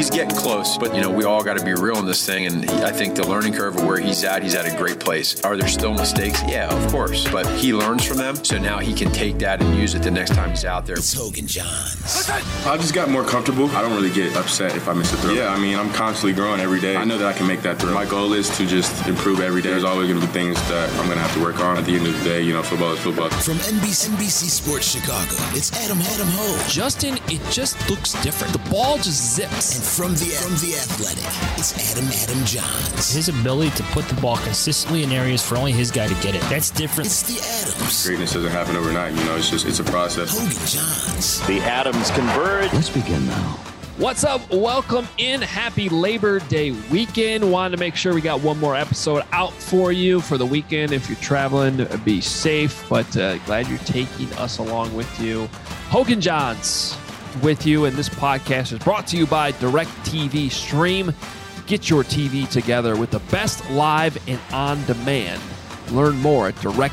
he's getting close. But, we all got to be real in this thing. And I think the learning curve of where he's at a great place. Are there still mistakes? Yeah, of course. But he learns from them. So now he can take that and use it the next time he's out there. It's Hogan Johns. I just got more comfortable. I don't really get upset if I miss a throw. Yeah, I'm constantly growing every day. I know that I can make that throw. My goal is to just improve every day. There's always going to be things that I'm going to have to work on. At the end of the day, football is football. From NBC Sports Chicago, it's Adam Ho. Justin, it just looks different. The ball just zips. And from the Athletic, it's Adam Johns. His ability to put the ball consistently in areas for only his guy to get it. That's different. It's the Adams. Greatness doesn't happen overnight. It's a process. Hogan Johns. The Adams converge. Let's begin now. What's up? Welcome in. Happy Labor Day weekend. Wanted to make sure we got one more episode out for you for the weekend. If you're traveling, be safe, but glad you're taking us along with you. Hogan Johns with you, and this podcast is brought to you by DirecTV Stream. Get your TV together with the best live and on-demand. Learn more at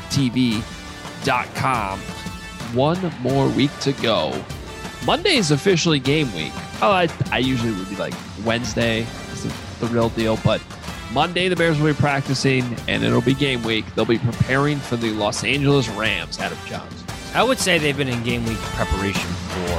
directtv.com. One more week to go. Monday is officially game week. I usually would be like Wednesday is the real deal, but Monday the Bears will be practicing and it'll be game week. They'll be preparing for the Los Angeles Rams. Adam Johns. I would say they've been in game week preparation for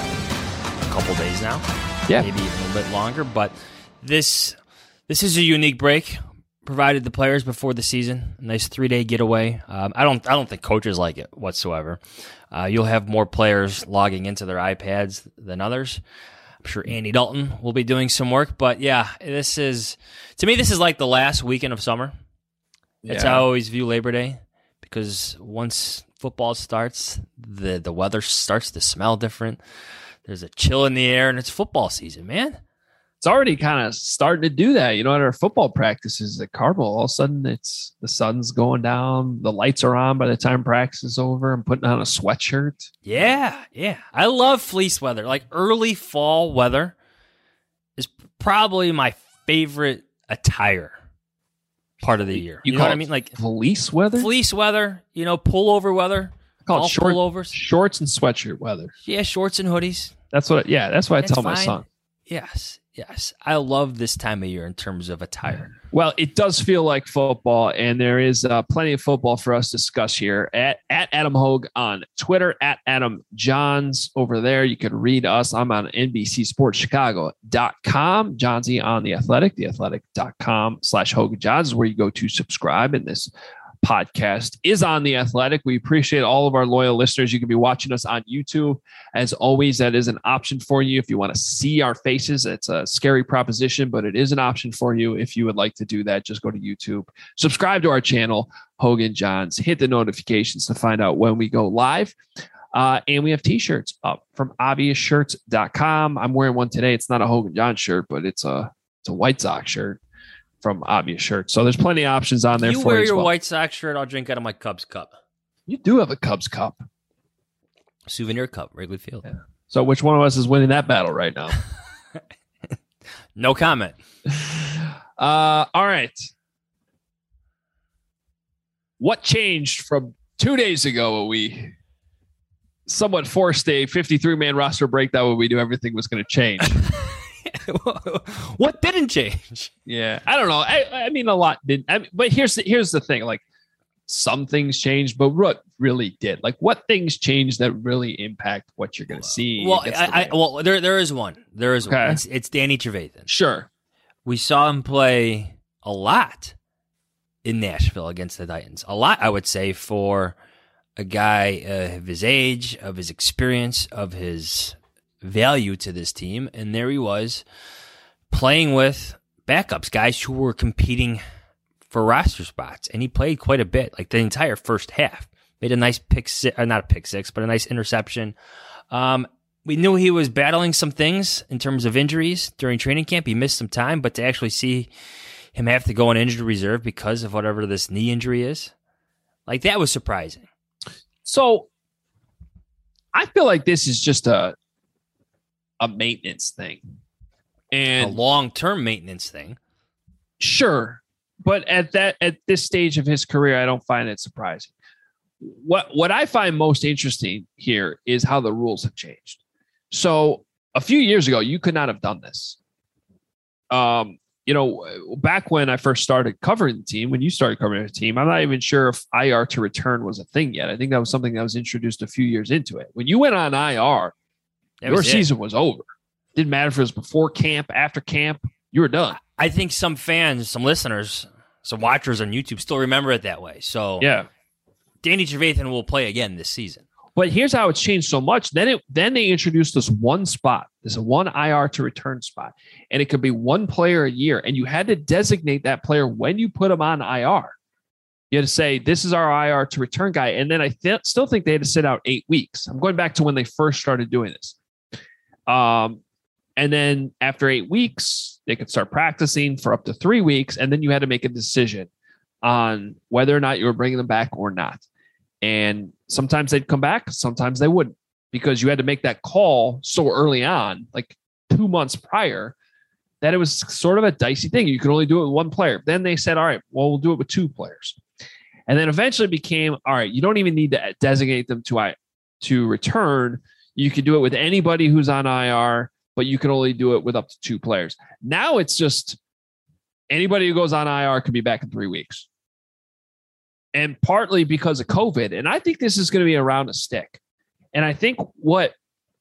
a couple days now. Yeah. Maybe even a little bit longer, but this is a unique break provided the players before the season. A nice 3-day getaway. I don't think coaches like it whatsoever. You'll have more players logging into their iPads than others. I'm sure Andy Dalton will be doing some work, but yeah, this is like the last weekend of summer. That's how I always view Labor Day, because once football starts, the weather starts to smell different. There's a chill in the air, and it's football season, man. It's already kind of starting to do that. At our football practices at Carmel, all of a sudden the sun's going down, the lights are on by the time practice is over. I'm putting on a sweatshirt. Yeah. I love fleece weather. Like early fall weather is probably my favorite attire part of the year. You know what I mean? Like fleece weather? Fleece weather, pullover weather. I call it pullovers. Shorts and sweatshirt weather. Yeah, shorts and hoodies. That's what I tell my son. Yes. I love this time of year in terms of attire. Well, it does feel like football, and there is plenty of football for us to discuss here at Adam Hogue on Twitter, at Adam Johns over there. You can read us. I'm on NBCSportsChicago.com. Johnsy on The Athletic, theathletic.com/Hogan Johns is where you go to subscribe. And this podcast is on The Athletic. We appreciate all of our loyal listeners. You can be watching us on YouTube. As always, that is an option for you if you want to see our faces. It's a scary proposition, but it is an option for you. If you would like to do that, just go to YouTube, subscribe to our channel, Hogan Johns, hit the notifications to find out when we go live. And we have t-shirts up from obviousshirts.com. I'm wearing one today. It's not a Hogan Johns shirt, but it's a White Sox shirt from Obvious Shirts. So there's plenty of options on there for you. You wear your White Sox shirt, I'll drink out of my Cubs cup. You do have a Cubs cup. Souvenir cup, Wrigley Field. Yeah. So which one of us is winning that battle right now? No comment. All right. What changed from 2 days ago when we somewhat forced a 53-man roster breakdown when we knew everything was going to change? What didn't change? Yeah, I don't know. I mean, a lot didn't. But here's the thing. Like, some things changed, but what really did? Like, what things changed that really impact what you're going to see? Well, there is one. There is one. It's Danny Trevathan. Sure, we saw him play a lot in Nashville against the Titans. A lot, I would say, for a guy of his age, of his experience, of his value to this team. And there he was playing with backups, guys who were competing for roster spots. And he played quite a bit, like the entire first half. Made a nice not a pick six, but a nice interception. We knew he was battling some things in terms of injuries during training camp. He missed some time, but to actually see him have to go on injured reserve because of whatever this knee injury is, like, that was surprising. So I feel like this is just a maintenance thing, and a long-term maintenance thing. Sure. But at this stage of his career, I don't find it surprising. What I find most interesting here is how the rules have changed. So a few years ago, you could not have done this. Back when I first started covering the team, when you started covering the team, I'm not even sure if IR to return was a thing yet. I think that was something that was introduced a few years into it. When you went on IR, your season was over. Didn't matter if it was before camp, after camp, you were done. I think some fans, some listeners, some watchers on YouTube still remember it that way. So yeah, Danny Trevathan will play again this season. But here's how it's changed so much. Then they introduced this one spot. There's a one IR to return spot, and it could be one player a year. And you had to designate that player when you put him on IR. You had to say, this is our IR to return guy. And then I still think they had to sit out 8 weeks. I'm going back to when they first started doing this. And then after 8 weeks, they could start practicing for up to 3 weeks. And then you had to make a decision on whether or not you were bringing them back or not. And sometimes they'd come back, sometimes they wouldn't, because you had to make that call so early on, like 2 months prior, that it was sort of a dicey thing. You could only do it with one player. Then they said, all right, well, we'll do it with 2 players. And then eventually it became, all right, you don't even need to designate them to return. You can do it with anybody who's on IR, but you can only do it with up to 2 players. Now it's just anybody who goes on IR could be back in 3 weeks. And partly because of COVID. And I think this is going to be around a stick. And I think what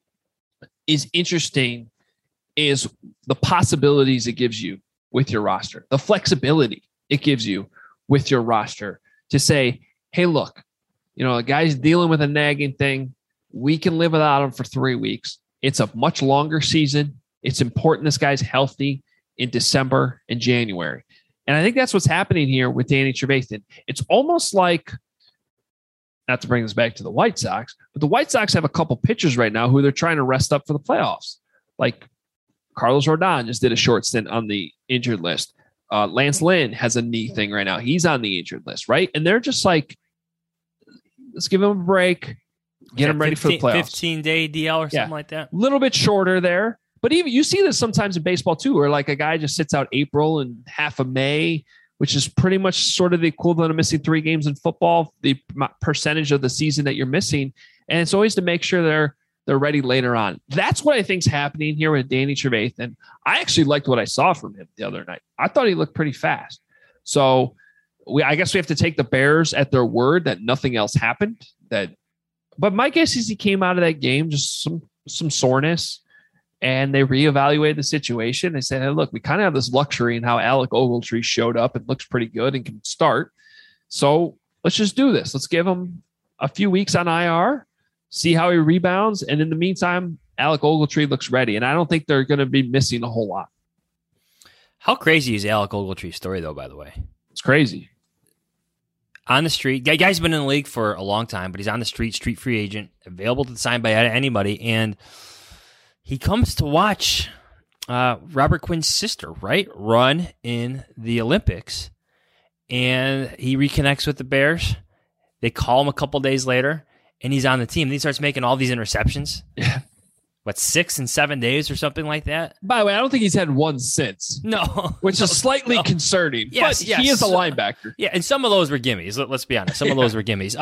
is interesting is the possibilities it gives you with your roster, the flexibility it gives you with your roster to say, hey, look, a guy's dealing with a nagging thing. We can live without him for 3 weeks. It's a much longer season. It's important this guy's healthy in December and January. And I think that's what's happening here with Danny Trevathan. It's almost like, not to bring this back to the White Sox, but the White Sox have a couple pitchers right now who they're trying to rest up for the playoffs. Like Carlos Rodon just did a short stint on the injured list. Lance Lynn has a knee thing right now. He's on the injured list, right? And they're just like, let's give him a break, get him ready for the playoffs. 15-day DL or something like that. A little bit shorter there. But even you see this sometimes in baseball too, where like a guy just sits out April and half of May, which is pretty much sort of the equivalent of missing 3 games in football, the percentage of the season that you're missing. And it's always to make sure they're ready later on. That's what I think is happening here with Danny Trevathan. I actually liked what I saw from him the other night. I thought he looked pretty fast. So I guess we have to take the Bears at their word that nothing else happened. But my guess is he came out of that game just some soreness. And they reevaluated the situation. They said, hey, look, we kind of have this luxury in how Alec Ogletree showed up and looks pretty good and can start. So let's just do this. Let's give him a few weeks on IR, see how he rebounds. And in the meantime, Alec Ogletree looks ready. And I don't think they're going to be missing a whole lot. How crazy is Alec Ogletree's story, though, by the way? It's crazy. On the street. Guy's been in the league for a long time, but he's on the street free agent, available to sign by anybody. And he comes to watch Robert Quinn's sister, right, run in the Olympics, and he reconnects with the Bears. They call him a couple days later, and he's on the team. And he starts making all these interceptions. Yeah. 6 and 7 days or something like that? By the way, I don't think he's had one since. No. Which is slightly concerning. Yes, but he is a linebacker. Yeah, and some of those were gimmies. Let's be honest. Some of those were gimmies.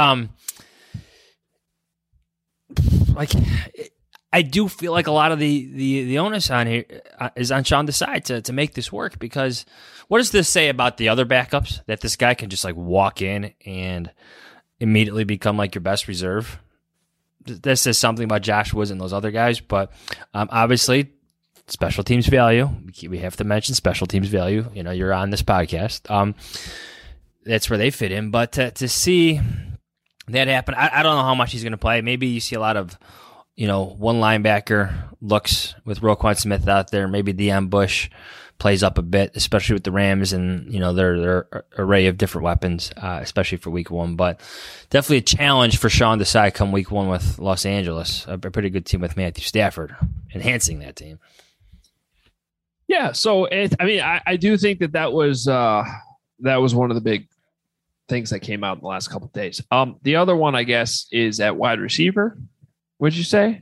I do feel like a lot of the onus on here is on Sean Desai to make this work, because what does this say about the other backups, that this guy can just like walk in and immediately become like your best reserve? This says something about Josh Woods and those other guys, but obviously special teams value. We have to mention special teams value. You're on this podcast. That's where they fit in, but to see that happen, I don't know how much he's going to play. Maybe you see a lot of one linebacker looks with Roquan Smith out there. Maybe Deion Bush plays up a bit, especially with the Rams and their array of different weapons, especially for Week 1. But definitely a challenge for Sean Desai come Week 1 with Los Angeles, a pretty good team with Matthew Stafford enhancing that team. Yeah, so I do think that was one of the big things that came out in the last couple of days. The other one, I guess, is at wide receiver. What'd you say?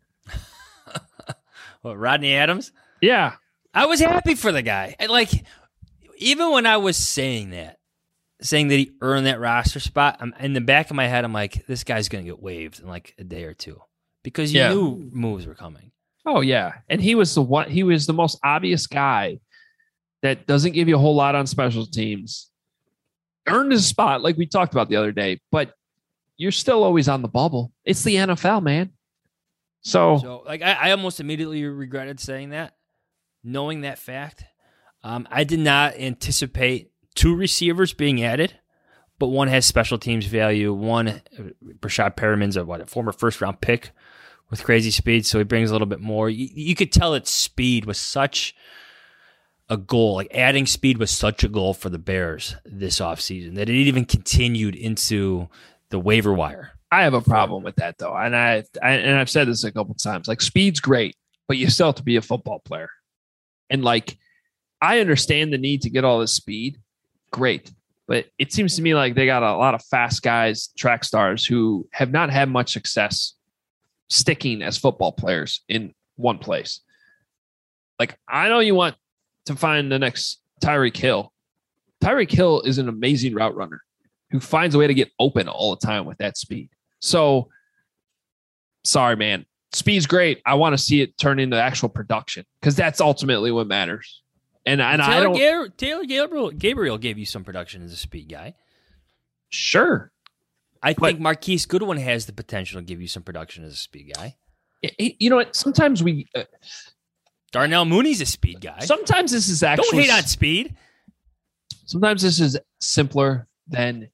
What, Rodney Adams? Yeah. I was happy for the guy. Even when I was saying that he earned that roster spot, in the back of my head, I'm like, this guy's going to get waived in like a day or two, because you knew moves were coming. Oh yeah. And he was the most obvious guy that doesn't give you a whole lot on special teams earned his spot, like we talked about the other day, but you're still always on the bubble. It's the NFL, man. So like, I almost immediately regretted saying that, knowing that fact. I did not anticipate 2 receivers being added, but one has special teams value. One, Breshad Perriman's a former first-round pick with crazy speed, so he brings a little bit more. You could tell that speed was such a goal, like adding speed was such a goal for the Bears this offseason that it even continued into the waiver wire. I have a problem with that, though, and I've said this a couple of times. Like, speed's great, but you still have to be a football player. And like, I understand the need to get all this speed, great, but it seems to me like they got a lot of fast guys, track stars, who have not had much success sticking as football players in one place. Like, I know you want to find the next Tyreek Hill. Tyreek Hill is an amazing route runner who finds a way to get open all the time with that speed. So, sorry, man. Speed's great. I want to see it turn into actual production because that's ultimately what matters. And Taylor Gabriel gave you some production as a speed guy. Sure. I think Marquise Goodwin has the potential to give you some production as a speed guy. You know what? Sometimes Darnell Mooney's a speed guy. Sometimes this is actually... Don't hate on speed. Sometimes this is simpler than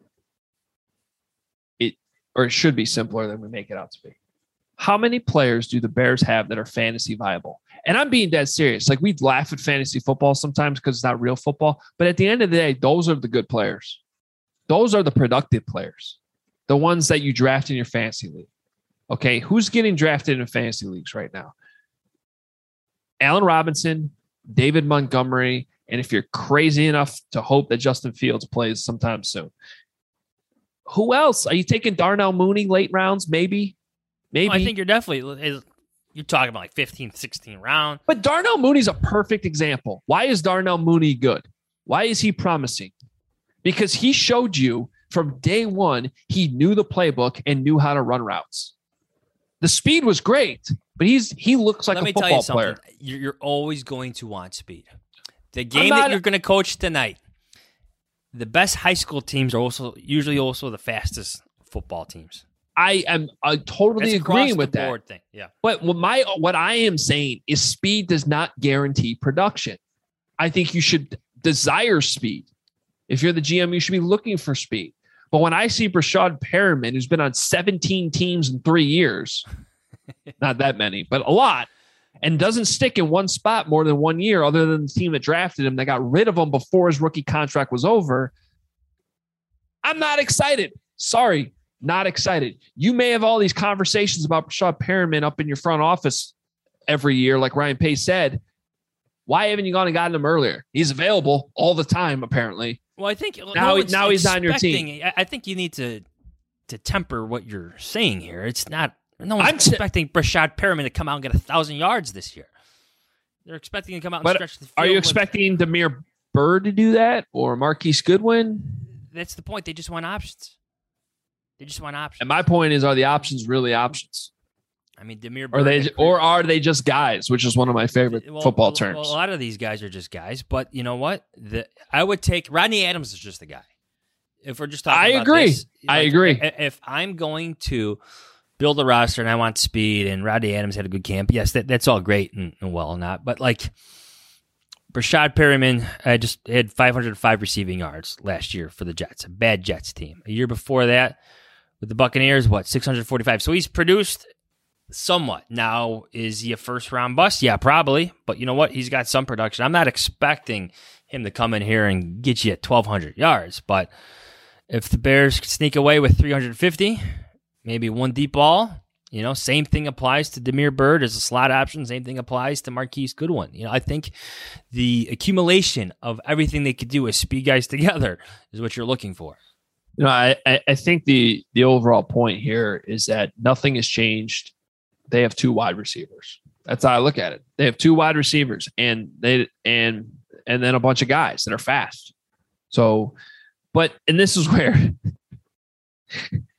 it, or it should be simpler than we make it out to be. How many players do the Bears have that are fantasy viable? And I'm being dead serious. Like, we laugh at fantasy football sometimes because it's not real football. But at the end of the day, those are the good players. Those are the productive players. The ones that you draft in your fantasy league. Okay, who's getting drafted in fantasy leagues right now? Allen Robinson, David Montgomery, and if you're crazy enough to hope that Justin Fields plays sometime soon. Who else? Are you taking Darnell Mooney late rounds? Maybe. I think you're definitely... You're talking about like 15th, 16th round. But Darnell Mooney's a perfect example. Why is Darnell Mooney good? Why is he promising? Because he showed you from day one, he knew the playbook and knew how to run routes. The speed was great, but he looks like a football player. You're always going to want speed. The game that you're going to coach tonight, the best high school teams are usually also the fastest football teams. I am totally agreeing with that. Thing. Yeah. But what I am saying is speed does not guarantee production. I think you should desire speed. If you're the GM, you should be looking for speed. But when I see Breshad Perriman, who's been on 17 teams in 3 years, not that many, but a lot, and doesn't stick in one spot more than 1 year, other than the team that drafted him, that got rid of him before his rookie contract was over, I'm not excited. Sorry. Not excited. You may have all these conversations about Breshad Perriman up in your front office every year, like Ryan Pace said. Why haven't you gone and gotten him earlier? He's available all the time, apparently. Well, I think now he's on your team. I think you need to temper what you're saying here. It's not. No one's expecting Breshad Perriman to come out and get 1,000 yards this year. They're expecting him to come out and stretch the field. Are you expecting Damiere Byrd to do that or Marquise Goodwin? That's the point. They just want options. And my point is, are the options really options? I mean, Damiere Byrd, or are they just guys, which is one of my favorite football terms. Well, a lot of these guys are just guys, but you know what? I would take Rodney Adams is just a guy. If we're just talking about this, I agree. If I'm going to build a roster and I want speed and Rodney Adams had a good camp, yes, that's all great and well and not. But like Breshad Perriman, I just had 505 receiving yards last year for the Jets, a bad Jets team. A year before that, with the Buccaneers, 645. So he's produced somewhat. Now, is he a first-round bust? Yeah, probably. But you know what? He's got some production. I'm not expecting him to come in here and get you at 1,200 yards. But if the Bears sneak away with 350, maybe one deep ball, same thing applies to Damiere Byrd as a slot option. Same thing applies to Marquise Goodwin. I think the accumulation of everything they could do as speed guys together is what you're looking for. I think the overall point here is that nothing has changed. They have 2 wide receivers. That's how I look at it. They have 2 wide receivers and then a bunch of guys that are fast. So, and this is where,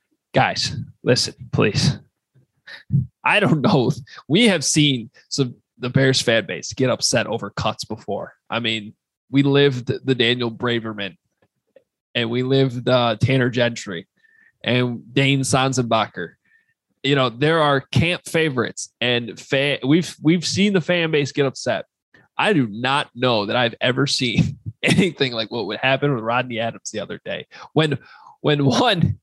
guys, listen, please. I don't know. We have seen some the Bears fan base get upset over cuts before. I mean, we lived the Daniel Braverman, and we lived Tanner Gentry and Dane Sanzenbacher. You know, there are camp favorites, and we've seen the fan base get upset. I do not know that I've ever seen anything like what would happen with Rodney Adams the other day. When one,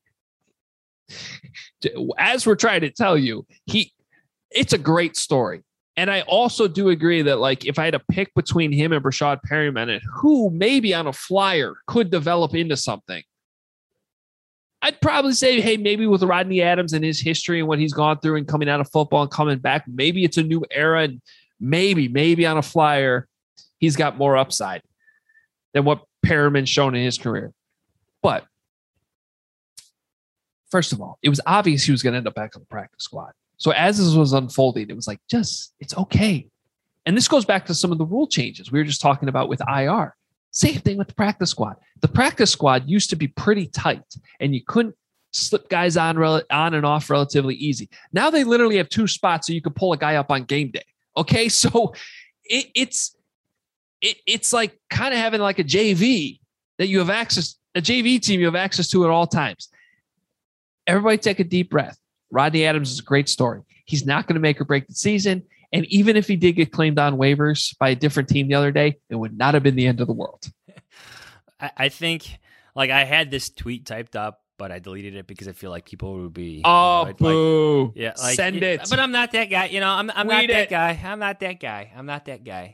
as we're trying to tell you, it's a great story. And I also do agree that, like, if I had to pick between him and Brashad Perryman and who maybe on a flyer could develop into something, I'd probably say, hey, maybe with Rodney Adams and his history and what he's gone through and coming out of football and coming back, maybe it's a new era, and maybe on a flyer, he's got more upside than what Perriman's shown in his career. But first of all, it was obvious he was going to end up back on the practice squad. So as this was unfolding, it was like, it's okay. And this goes back to some of the rule changes we were just talking about with IR. Same thing with the practice squad. The practice squad used to be pretty tight, and you couldn't slip guys on and off relatively easy. Now they literally have 2 spots so you could pull a guy up on game day. Okay, so it's like kind of having like a JV that you have access, a JV team you have access to at all times. Everybody take a deep breath. Rodney Adams is a great story. He's not going to make or break the season. And even if he did get claimed on waivers by a different team the other day, it would not have been the end of the world. I think, like, I had this tweet typed up, but I deleted it because I feel like people would be boo. Yeah, like, send it. But I'm not that guy. You know, I'm not that guy. I'm not that guy.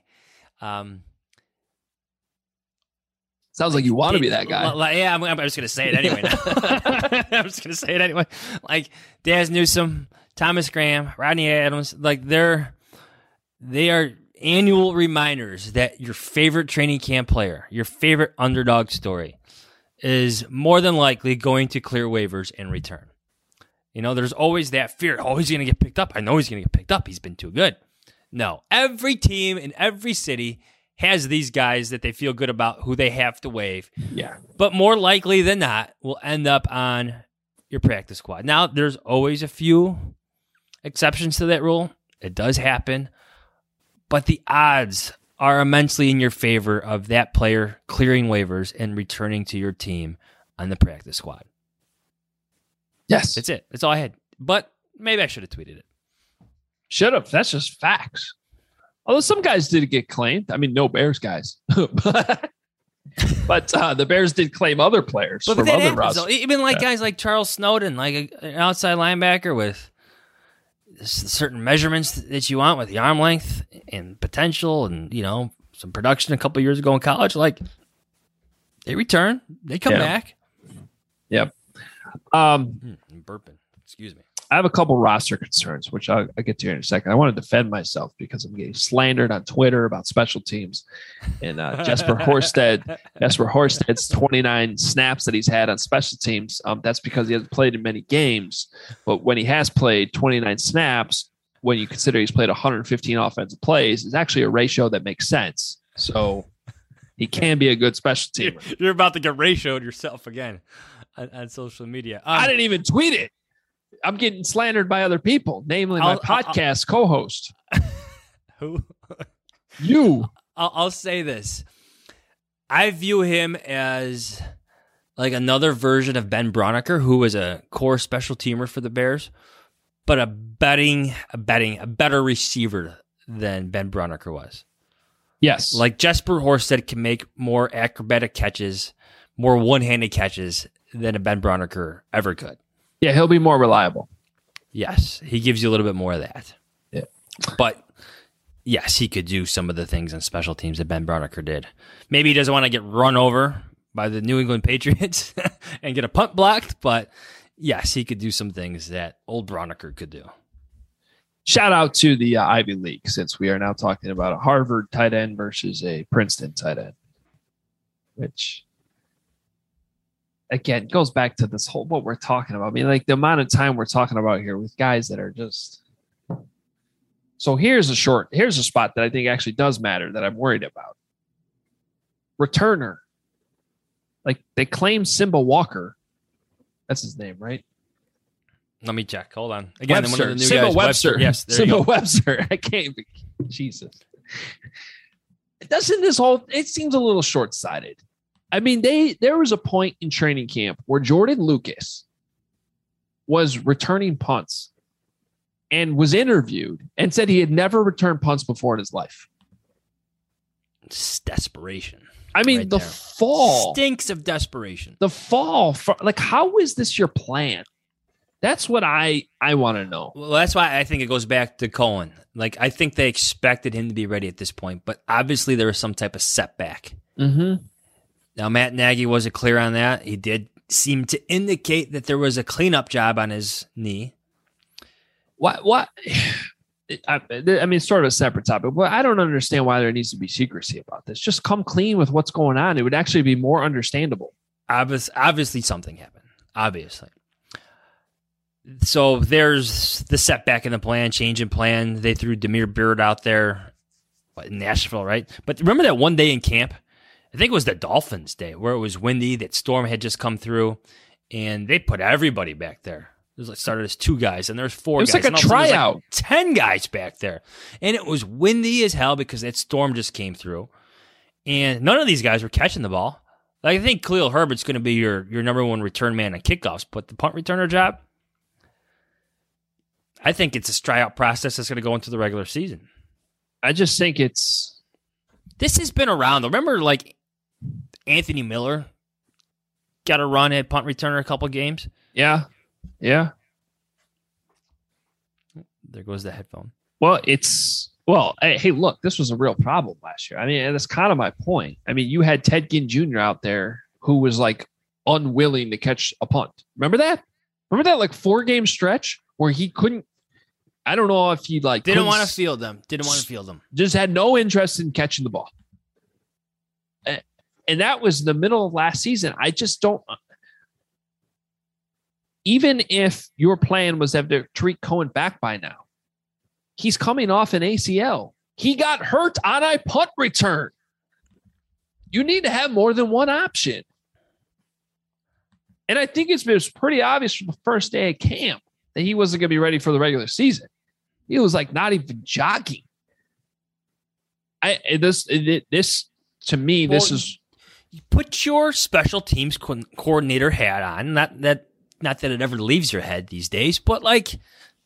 Sounds like you want to be that guy. Yeah, I'm just going to say it anyway. I'm just going to say it anyway. Like Daz Newsome, Thomas Graham, Rodney Adams, like they are annual reminders that your favorite training camp player, your favorite underdog story, is more than likely going to clear waivers and return. You know, there's always that fear. Oh, he's going to get picked up. I know he's going to get picked up. He's been too good. No, every team in every city has these guys that they feel good about who they have to waive. Yeah. But more likely than not, will end up on your practice squad. Now, there's always a few exceptions to that rule. It does happen. But the odds are immensely in your favor of that player clearing waivers and returning to your team on the practice squad. Yes. That's it. That's all I had. But maybe I should have tweeted it. Should have. That's just facts. Although some guys did get claimed. I mean, no Bears guys. but the Bears did claim other players from other rosters. Even like guys like Charles Snowden, like an outside linebacker with certain measurements that you want with the arm length and potential and, you know, some production a couple of years ago in college, like they return, they come back. Yep. I'm burping. Excuse me. I have a couple roster concerns, which I'll get to here in a second. I want to defend myself because I'm getting slandered on Twitter about special teams. And Jesper Horsted's 29 snaps that he's had on special teams, that's because he hasn't played in many games. But when he has played 29 snaps, when you consider he's played 115 offensive plays, is actually a ratio that makes sense. So he can be a good special teamer. You're about to get ratioed yourself again on social media. I didn't even tweet it. I'm getting slandered by other people, namely my podcast co-host. Who? You. I'll say this. I view him as like another version of Ben Braunecker, who was a core special teamer for the Bears, but a better receiver than Ben Braunecker was. Yes. Like Jesper Horsted can make more acrobatic catches, more one-handed catches than a Ben Braunecker ever could. Yeah, he'll be more reliable. Yes, he gives you a little bit more of that. Yeah. But yes, he could do some of the things on special teams that Ben Braunecker did. Maybe he doesn't want to get run over by the New England Patriots and get a punt blocked, but yes, he could do some things that old Braunecker could do. Shout out to the Ivy League, since we are now talking about a Harvard tight end versus a Princeton tight end, which again goes back to this whole what we're talking about. I mean, like the amount of time we're talking about here with guys that are just. So here's a spot that I think actually does matter that I'm worried about. Returner. Like they claim Simba Walker. That's his name, right? Let me check. Hold on. Again, Webster. one of the new Simba guys. Webster. Yes, Simba Webster. I can't. Jesus. It seems a little short-sighted. I mean, there was a point in training camp where Jordan Lucas was returning punts and was interviewed and said he had never returned punts before in his life. It's desperation. I mean, right the there. fall Stinks of desperation. The fall, like, how is this your plan? That's what I want to know. Well, that's why I think it goes back to Cohen. Like, I think they expected him to be ready at this point, but obviously there was some type of setback. Mm-hmm. Now, Matt Nagy wasn't clear on that. He did seem to indicate that there was a cleanup job on his knee. What? I mean, it's sort of a separate topic, but I don't understand why there needs to be secrecy about this. Just come clean with what's going on. It would actually be more understandable. Obviously something happened. Obviously. So there's the setback in the plan, change in plan. They threw Damiere Byrd out there in Nashville, right? But remember that one day in camp? I think it was the Dolphins day where it was windy. That storm had just come through, and they put everybody back there. It started as 2 guys, and there's 4 guys. It was like a tryout. Like 10 guys back there. And it was windy as hell because that storm just came through. And none of these guys were catching the ball. Like, I think Khalil Herbert's going to be your number 1 return man on kickoffs, but the punt returner job, I think it's a tryout process that's going to go into the regular season. I just think this has been around. Remember, like, Anthony Miller got a run at punt returner a couple games? Yeah. Yeah. There goes the headphone. Well, hey, look, this was a real problem last year. I mean, and that's kind of my point. I mean, you had Ted Ginn Jr. out there who was like unwilling to catch a punt. Remember that like 4-game stretch where he couldn't, I don't know if he like didn't want to field them. Just had no interest in catching the ball. And that was in the middle of last season. I just don't. Even if your plan was to have Tariq Cohen back by now, he's coming off an ACL. He got hurt on a punt return. You need to have more than one option. And I think it was pretty obvious from the first day of camp that he wasn't going to be ready for the regular season. He was like not even jogging. This to me, this is. Put your special teams coordinator hat on. Not that it ever leaves your head these days, but like,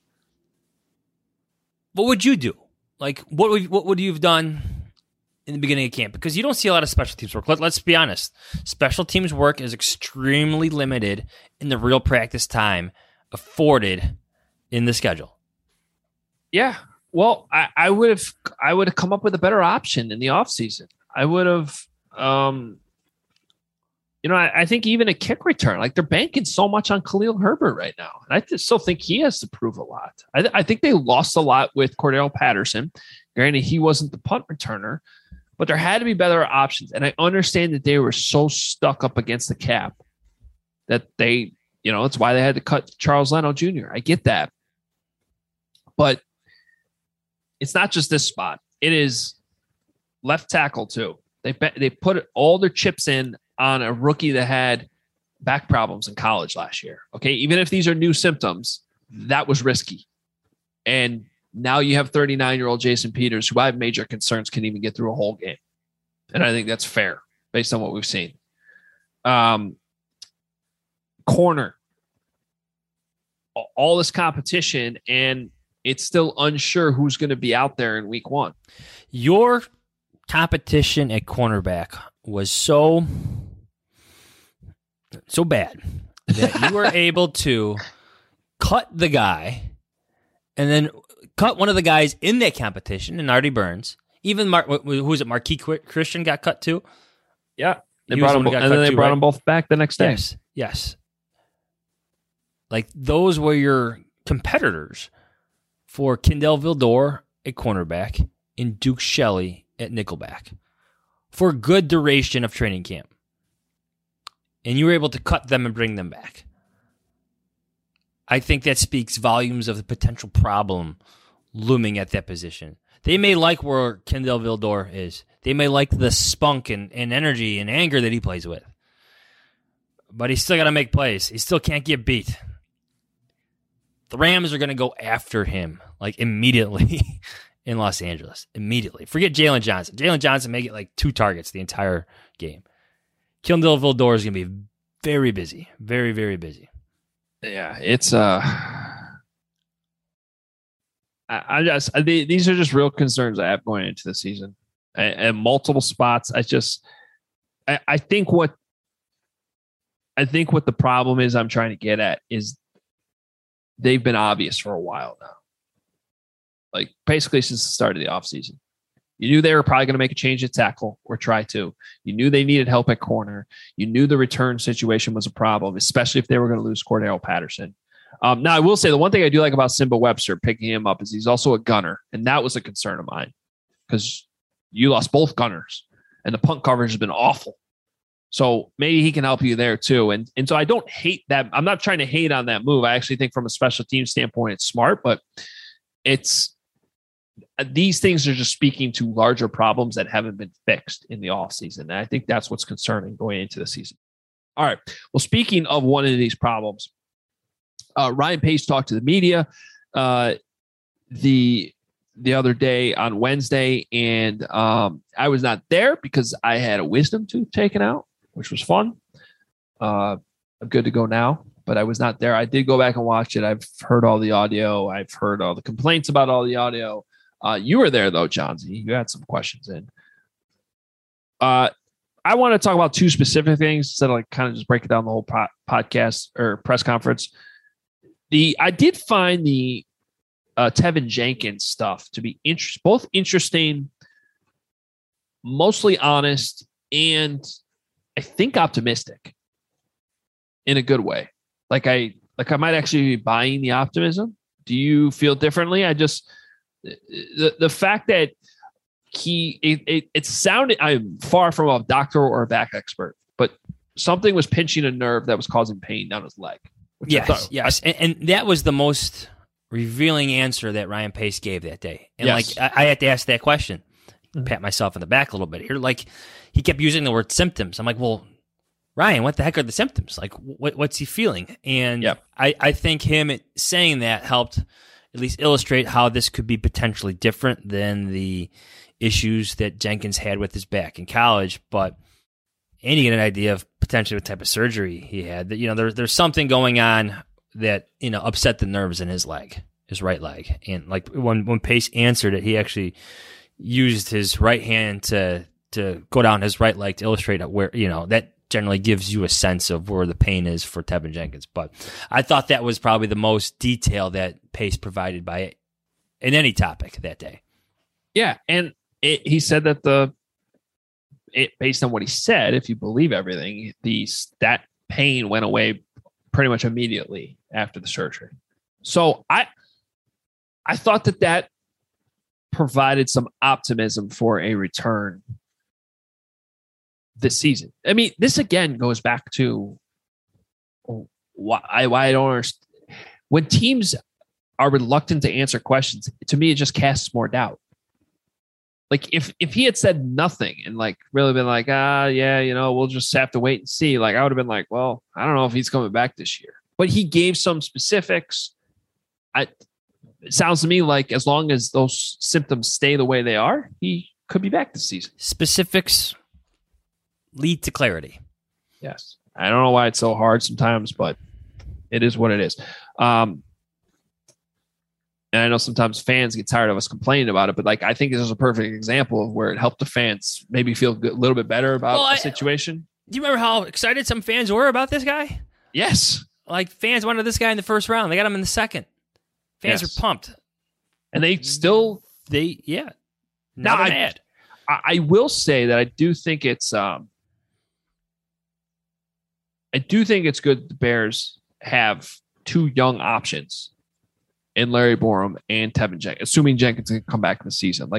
what would you do? Like, what would you have done in the beginning of camp? Because you don't see a lot of special teams work. Let's be honest. Special teams work is extremely limited in the real practice time afforded in the schedule. Yeah. Well, I would have come up with a better option in the offseason. I would have, I think even a kick return, like they're banking so much on Khalil Herbert right now. And I still think he has to prove a lot. I think they lost a lot with Cordell Patterson. Granted, he wasn't the punt returner, but there had to be better options. And I understand that they were so stuck up against the cap that they, it's why they had to cut Charles Leno Jr. I get that. But it's not just this spot. It is left tackle too. They put all their chips in on a rookie that had back problems in college last year. Okay. Even if these are new symptoms, that was risky. And now you have 39-year-old Jason Peters, who I have major concerns can even get through a whole game. And I think that's fair based on what we've seen. Corner, all this competition, and it's still unsure who's going to be out there in week 1. Your competition at cornerback was so bad that you were able to cut the guy and then cut one of the guys in that competition, and Artie Burns. Even who was it? Marquis Christian got cut too. Yeah, they brought them both back the next day. Yes. Like those were your competitors for Kendall Vildor at cornerback and Duke Shelley at nickelback for a good duration of training camp. And you were able to cut them and bring them back. I think that speaks volumes of the potential problem looming at that position. They may like where Kendall Vildor is. They may like the spunk and energy and anger that he plays with. But he's still got to make plays. He still can't get beat. The Rams are going to go after him, like immediately. in Los Angeles immediately. Forget Jalen Johnson. Jalen Johnson may get like 2 targets the entire game. Kindle Vildor is going to be very busy. Very, very busy. Yeah, it's these are just real concerns I have going into the season, and multiple spots. I think what the problem is I'm trying to get at is they've been obvious for a while now. Like basically since the start of the offseason. You knew they were probably going to make a change at tackle or try to. You knew they needed help at corner. You knew the return situation was a problem, especially if they were going to lose Cordell Patterson. Now, I will say the one thing I do like about Simba Webster picking him up is he's also a gunner, and that was a concern of mine because you lost both gunners, and the punt coverage has been awful. So maybe he can help you there too. And so I don't hate that. I'm not trying to hate on that move. I actually think from a special team standpoint, it's smart, but these things are just speaking to larger problems that haven't been fixed in the offseason. And I think that's what's concerning going into the season. All right. Well, speaking of one of these problems, Ryan Pace talked to the media the other day on Wednesday, and I was not there because I had a wisdom tooth taken out, which was fun. I'm good to go now, but I was not there. I did go back and watch it. I've heard all the audio. I've heard all the complaints about all the audio. You were there though, Johnsy. You had some questions in. I want to talk about 2 specific things instead of like kind of just break it down the whole podcast or press conference. I did find the Tevin Jenkins stuff to be both interesting, mostly honest, and I think optimistic in a good way. Like I might actually be buying the optimism. Do you feel differently? The fact that it sounded, I'm far from a doctor or a back expert, but something was pinching a nerve that was causing pain down his leg. Yes. And that was the most revealing answer that Ryan Pace gave that day. And yes. I had to ask that question, pat myself in the back a little bit here. Like he kept using the word symptoms. I'm like, well, Ryan, what the heck are the symptoms? Like what's he feeling? And I think him saying that helped at least illustrate how this could be potentially different than the issues that Jenkins had with his back in college. But and you get an idea of potentially what type of surgery he had. That there's something going on that upset the nerves in his right leg. And like when Pace answered it, he actually used his right hand to go down his right leg to illustrate where that generally gives you a sense of where the pain is for Tevin Jenkins. But I thought that was probably the most detail that Pace provided by it in any topic that day. Yeah, and he said that based on what he said, if you believe everything, that pain went away pretty much immediately after the surgery. So I thought that provided some optimism for a return this season. I mean, this again goes back to why I don't understand. When teams are reluctant to answer questions, to me, it just casts more doubt. Like if he had said nothing and like really been like, we'll just have to wait and see. Like I would have been like, well, I don't know if he's coming back this year. But he gave some specifics. It sounds to me like as long as those symptoms stay the way they are, he could be back this season. Specifics lead to clarity. Yes. I don't know why it's so hard sometimes, but it is what it is. And I know sometimes fans get tired of us complaining about it, but like I think this is a perfect example of where it helped the fans maybe feel a little bit better about the situation. Do you remember how excited some fans were about this guy? Yes. Like fans wanted this guy in the first round. They got him in the second. Fans are pumped. And they still... Now they're mad. I will say that I do think it's... I do think it's good the Bears have 2 young options in Larry Borom and Tevin Jenkins, assuming Jenkins can come back in the season.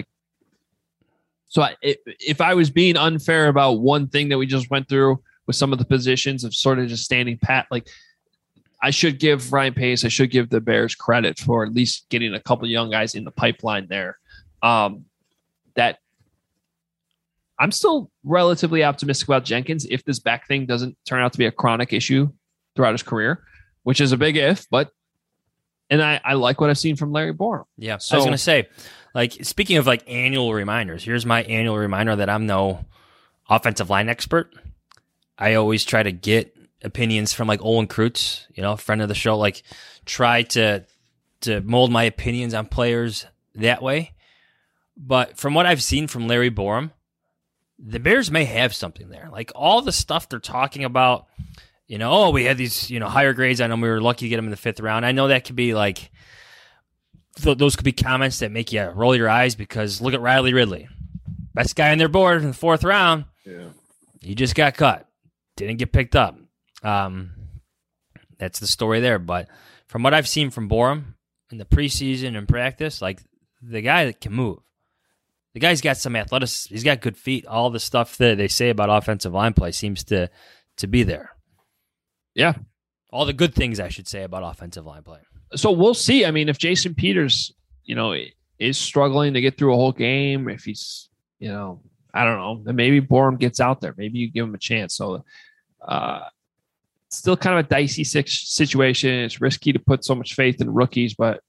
If I was being unfair about one thing that we just went through with some of the positions of sort of just standing pat, like I should give Ryan Pace, I should give the Bears credit for at least getting a couple of young guys in the pipeline there. That I'm still relatively optimistic about Jenkins if this back thing doesn't turn out to be a chronic issue throughout his career, which is a big if, but And I like what I've seen from Larry Borom. Yeah. So, I was going to say, like, speaking of like annual reminders, here's my annual reminder that I'm no offensive line expert. I always try to get opinions from like Olin Kreutz, a friend of the show, like try to mold my opinions on players that way. But from what I've seen from Larry Borom, the Bears may have something there. Like all the stuff they're talking about, we had these, higher grades. I know we were lucky to get them in the 5th round. I know that could be like, those could be comments that make you roll your eyes because look at Riley Ridley. Best guy on their board in the 4th round. Yeah. He just got cut. Didn't get picked up. That's the story there. But from what I've seen from Borom in the preseason and practice, like the guy that can move. The guy's got some athleticism. He's got good feet. All the stuff that they say about offensive line play seems to be there. Yeah. All the good things I should say about offensive line play. So we'll see. I mean, if Jason Peters, is struggling to get through a whole game, if he's, I don't know, then maybe Borom gets out there. Maybe you give him a chance. So still kind of a dicey situation. It's risky to put so much faith in rookies, but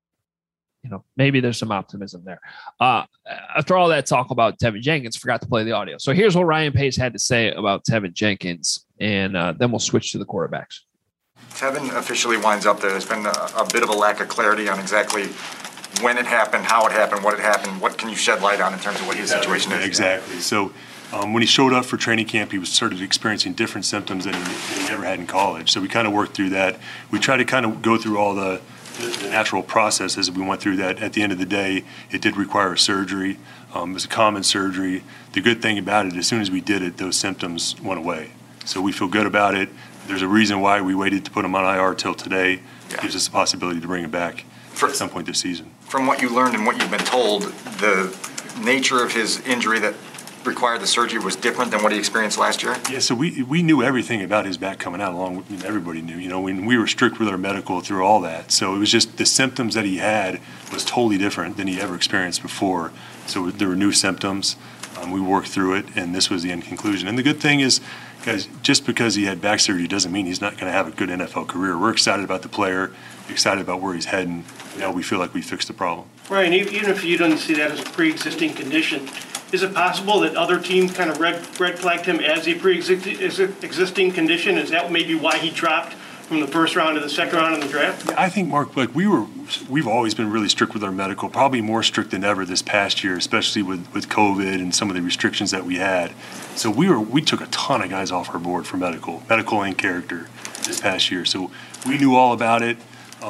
maybe there's some optimism there. After all that talk about Tevin Jenkins, forgot to play the audio. So here's what Ryan Pace had to say about Tevin Jenkins, and then we'll switch to the quarterbacks. Tevin officially winds up there. There's been a bit of a lack of clarity on exactly when it happened, how it happened, what had happened. What can you shed light on in terms of what his situation is? Exactly. So when he showed up for training camp, he was started experiencing different symptoms than he ever had in college. So we kind of worked through that. We tried to kind of go through all the natural processes. We went through that. At the end of the day, it did require surgery. It was a common surgery. The good thing about it, as soon as we did it, those symptoms went away. So we feel good about it. There's a reason why we waited to put him on IR till today. It gives us the possibility to bring him back at some point this season. From what you learned and what you've been told, the nature of his injury that required the surgery was different than what he experienced last year? Yeah, so we knew everything about his back coming out, along with everybody knew. When we were strict with our medical through all that. So it was just the symptoms that he had was totally different than he ever experienced before. So there were new symptoms. We worked through it, and this was the end conclusion. And the good thing is, guys, just because he had back surgery doesn't mean he's not going to have a good NFL career. We're excited about the player, excited about where he's heading. Now we feel like we fixed the problem. Ryan, even if you don't see that as a pre-existing condition, is it possible that other teams kind of red flagged him as a pre-existing condition? Is that maybe why he dropped from the 1st round to the 2nd round in the draft? Yeah, I think, Mark, like we've always been really strict with our medical, probably more strict than ever this past year, especially with COVID and some of the restrictions that we had. So we took a ton of guys off our board for medical and character this past year. So we knew all about it.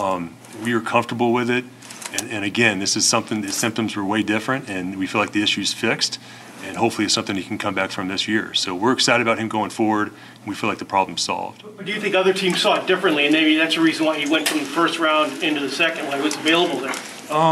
We were comfortable with it. And again, this is something, the symptoms were way different, and we feel like the issue's fixed, and hopefully it's something he can come back from this year. So we're excited about him going forward, and we feel like the problem's solved. But do you think other teams saw it differently, and maybe that's the reason why he went from the 1st round into the 2nd when it was available there?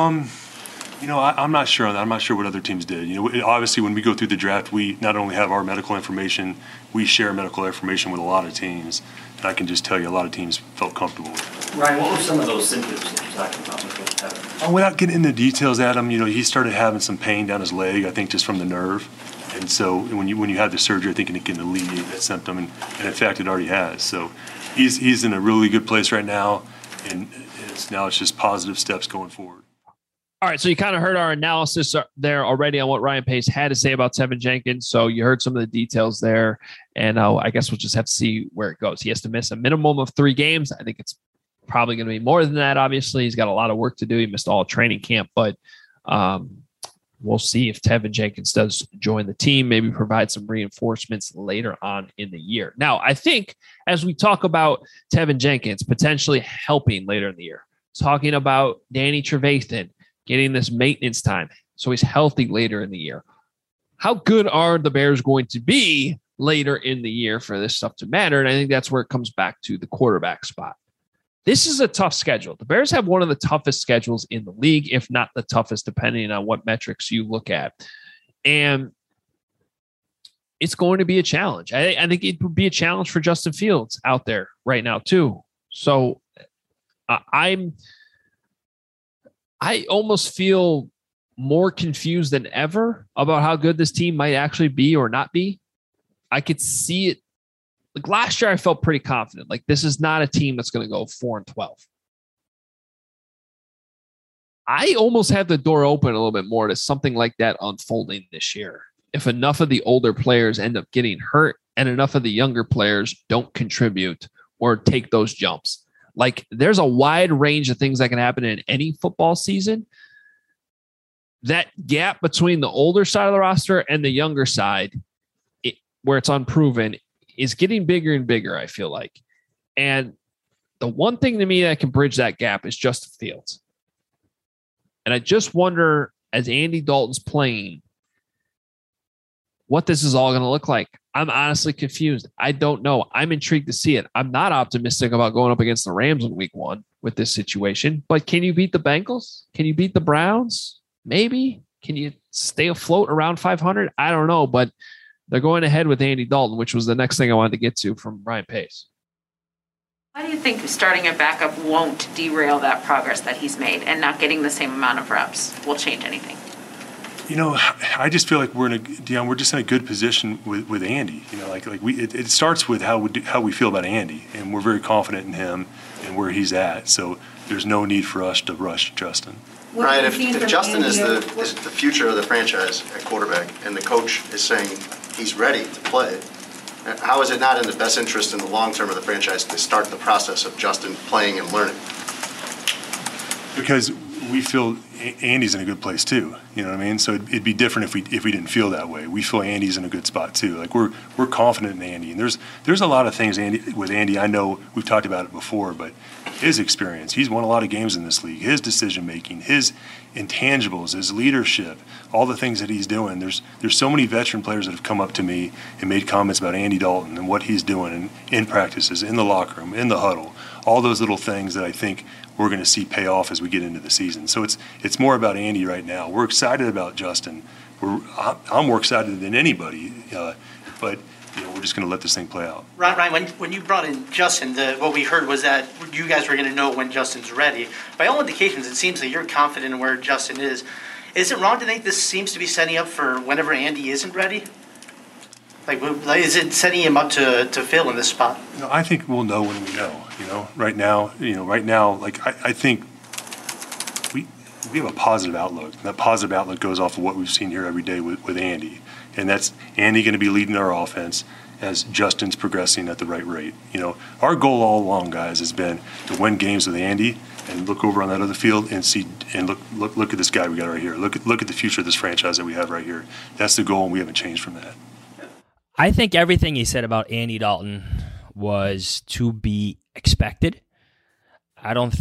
I'm not sure on that. I'm not sure what other teams did. Obviously, when we go through the draft, we not only have our medical information, we share medical information with a lot of teams. And I can just tell you a lot of teams felt comfortable with it. Ryan, what were some of those symptoms that you're talking about with Tevin? Without getting into details, Adam, he started having some pain down his leg, I think just from the nerve. And so when you have the surgery, I think it can alleviate that symptom. And in fact, it already has. So he's in a really good place right now. And it's just positive steps going forward. All right, so you kind of heard our analysis there already on what Ryan Pace had to say about Tevin Jenkins. So you heard some of the details there, and I guess we'll just have to see where it goes. He has to miss a minimum of 3 games. I think it's probably going to be more than that, obviously. He's got a lot of work to do. He missed all training camp, but we'll see if Tevin Jenkins does join the team, maybe provide some reinforcements later on in the year. Now, I think as we talk about Tevin Jenkins potentially helping later in the year, talking about Danny Trevathan, getting this maintenance time so he's healthy later in the year. How good are the Bears going to be later in the year for this stuff to matter? And I think that's where it comes back to the quarterback spot. This is a tough schedule. The Bears have one of the toughest schedules in the league, if not the toughest, depending on what metrics you look at. And it's going to be a challenge. I think it would be a challenge for Justin Fields out there right now, too. So I almost feel more confused than ever about how good this team might actually be or not be. I could see it. Like last year, I felt pretty confident. Like this is not a team that's going to go 4-12. I almost have the door open a little bit more to something like that unfolding this year. If enough of the older players end up getting hurt and enough of the younger players don't contribute or take those jumps. Like, there's a wide range of things that can happen in any football season. That gap between the older side of the roster and the younger side, where it's unproven, is getting bigger and bigger, I feel like. And the one thing to me that can bridge that gap is Justin Fields. And I just wonder, as Andy Dalton's playing, what this is all going to look like. I'm honestly confused. I don't know. I'm intrigued to see it. I'm not optimistic about going up against the Rams in week 1 with this situation, but can you beat the Bengals? Can you beat the Browns? Maybe. Can you stay afloat around 500? I don't know, but they're going ahead with Andy Dalton, which was the next thing I wanted to get to from Ryan Pace. Why do you think starting a backup won't derail that progress that he's made, and not getting the same amount of reps will change anything? I just feel like we're just in a good position with Andy. It starts with how we feel about Andy, and we're very confident in him and where he's at. So there's no need for us to rush Justin. Ryan, if Justin is the future of the franchise at quarterback, and the coach is saying he's ready to play, how is it not in the best interest in the long term of the franchise to start the process of Justin playing and learning? Because we feel Andy's in a good place too. You know what I mean? So it'd be different if we didn't feel that way. We feel Andy's in a good spot too. Like we're confident in Andy, and there's a lot of things with Andy. I know we've talked about it before, but his experience, he's won a lot of games in this league. His decision making, his intangibles, his leadership, all the things that he's doing. There's so many veteran players that have come up to me and made comments about Andy Dalton and what he's doing in practices, in the locker room, in the huddle, all those little things that I think we're going to see pay off as we get into the season. So it's more about Andy right now. We're excited about Justin. I'm more excited than anybody, but we're just going to let this thing play out. Ryan, when you brought in Justin, what we heard was that you guys were going to know when Justin's ready. By all indications, it seems that you're confident in where Justin is. Is it wrong to think this seems to be setting up for whenever Andy isn't ready? Like is it setting him up to fail in this spot? I think we'll know when we know. Right now, like I think we have a positive outlook. And that positive outlook goes off of what we've seen here every day with Andy. And that's Andy going to be leading our offense as Justin's progressing at the right rate. Our goal all along, guys, has been to win games with Andy and look over on that other field and see and look at this guy we got right here. Look at the future of this franchise that we have right here. That's the goal, and we haven't changed from that. I think everything he said about Andy Dalton was to be expected. I don't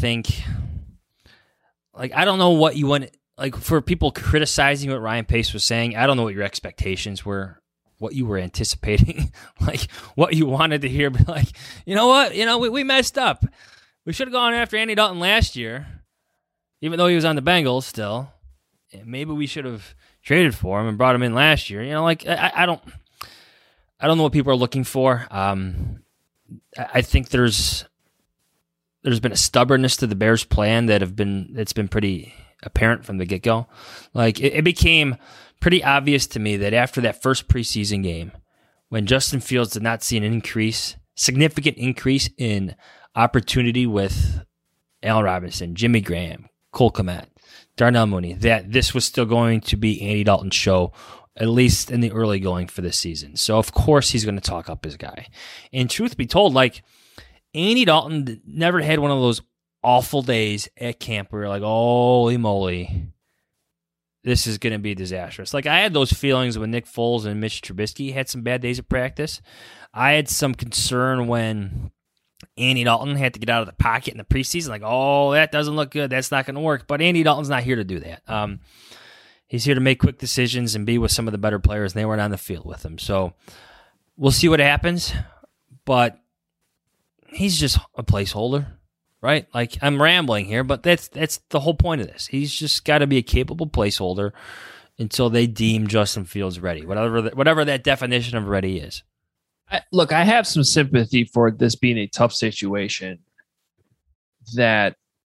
know what you want. Like, for people criticizing what Ryan Pace was saying, I don't know what your expectations were, what you were anticipating, like what you wanted to hear. But like, you know what? We messed up. We should have gone after Andy Dalton last year, even though he was on the Bengals still. And maybe we should have traded for him and brought him in last year. I don't know what people are looking for. I think there's been a stubbornness to the Bears' plan that's been pretty apparent from the get-go. Like, it became pretty obvious to me that after that first preseason game, when Justin Fields did not see an significant increase in opportunity with Allen Robinson, Jimmy Graham, Cole Kmet, Darnell Mooney, that this was still going to be Andy Dalton's show, at least in the early going for this season. So, of course, he's going to talk up his guy. And truth be told, like, Andy Dalton never had one of those awful days at camp where you're like, holy moly, this is going to be disastrous. Like, I had those feelings when Nick Foles and Mitch Trubisky had some bad days of practice. I had some concern when Andy Dalton had to get out of the pocket in the preseason. Like, oh, that doesn't look good. That's not going to work. But Andy Dalton's not here to do that. He's here to make quick decisions and be with some of the better players, and they weren't on the field with him. So we'll see what happens. But he's just a placeholder, right? Like, I'm rambling here, but that's the whole point of this. He's just got to be a capable placeholder until they deem Justin Fields ready, whatever that definition of ready is. Look, I have some sympathy for this being a tough situation, that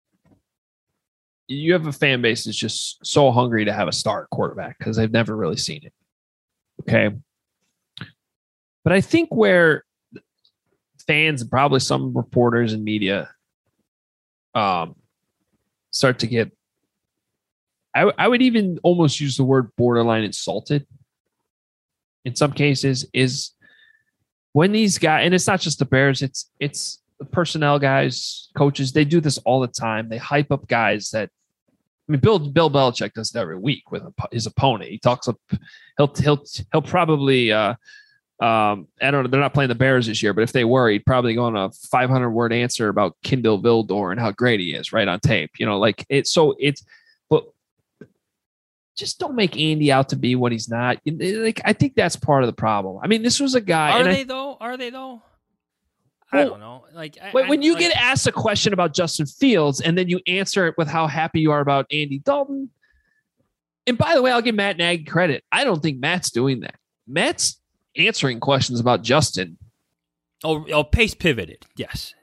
you have a fan base that's just so hungry to have a star quarterback because they've never really seen it. Okay. But I think where fans and probably some reporters and media start to get I would even almost use the word borderline insulted in some cases, is when these guys, and it's not just the Bears, it's the personnel guys, coaches, they do this all the time. They hype up guys that, I mean, Bill Belichick does it every week with his opponent. He talks up, he'll probably, I don't know, they're not playing the Bears this year, but if they were, he'd probably go on a 500-word answer about Kindle Vildor and how great he is right on tape. You know, like but just don't make Andy out to be what he's not. Like, I think that's part of the problem. I mean, this was a guy. Are they though? I don't know. Like, when you get asked a question about Justin Fields and then you answer it with how happy you are about Andy Dalton. And by the way, I'll give Matt Nagy credit. I don't think Matt's doing that. Matt's answering questions about Justin. Oh, Pace pivoted. Yes.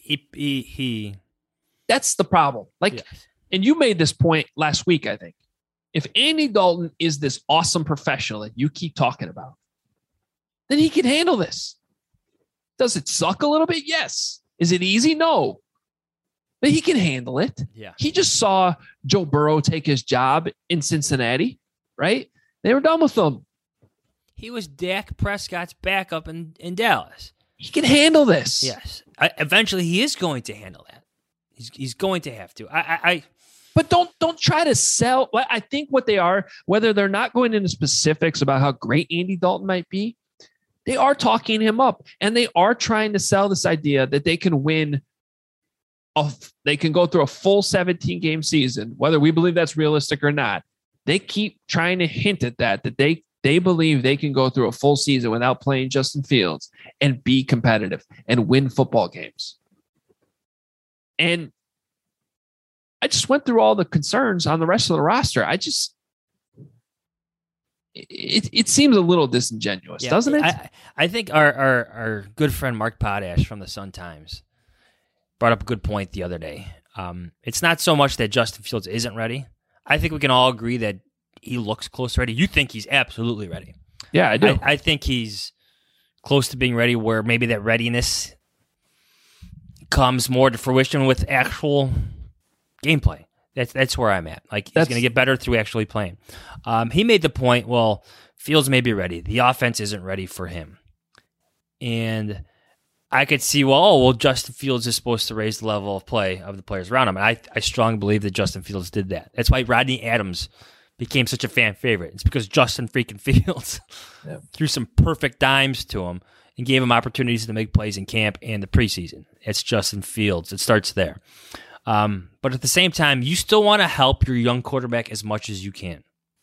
He That's the problem. Like, yes. And you made this point last week, I think. If Andy Dalton is this awesome professional that you keep talking about, then he can handle this. Does it suck a little bit? Yes. Is it easy? No. But he can handle it. Yeah. He just saw Joe Burrow take his job in Cincinnati, right? They were done with him. He was Dak Prescott's backup in Dallas. He can handle this. Yes. Eventually, he is going to handle that. He's going to have to. But don't try to sell. I think what they are, whether they're not going into specifics about how great Andy Dalton might be, they are talking him up, and they are trying to sell this idea that they can win. They can go through a full 17-game season, whether we believe that's realistic or not. They keep trying to hint at that they believe they can go through a full season without playing Justin Fields and be competitive and win football games. And I just went through all the concerns on the rest of the roster. It seems a little disingenuous, doesn't it? I think our good friend Mark Potash from the Sun-Times brought up a good point the other day. It's not so much that Justin Fields isn't ready. I think we can all agree that he looks close to ready. You think he's absolutely ready. Yeah, I do. I think he's close to being ready, where maybe that readiness comes more to fruition with actual gameplay. That's where I'm at. Like, he's going to get better through actually playing. He made the point, well, Fields may be ready. The offense isn't ready for him. And I could see, well, Justin Fields is supposed to raise the level of play of the players around him. And I strongly believe that Justin Fields did that. That's why Rodney Adams became such a fan favorite. It's because Justin freaking Fields threw some perfect dimes to him and gave him opportunities to make plays in camp and the preseason. It's Justin Fields. It starts there. But at the same time, you still want to help your young quarterback as much as you can.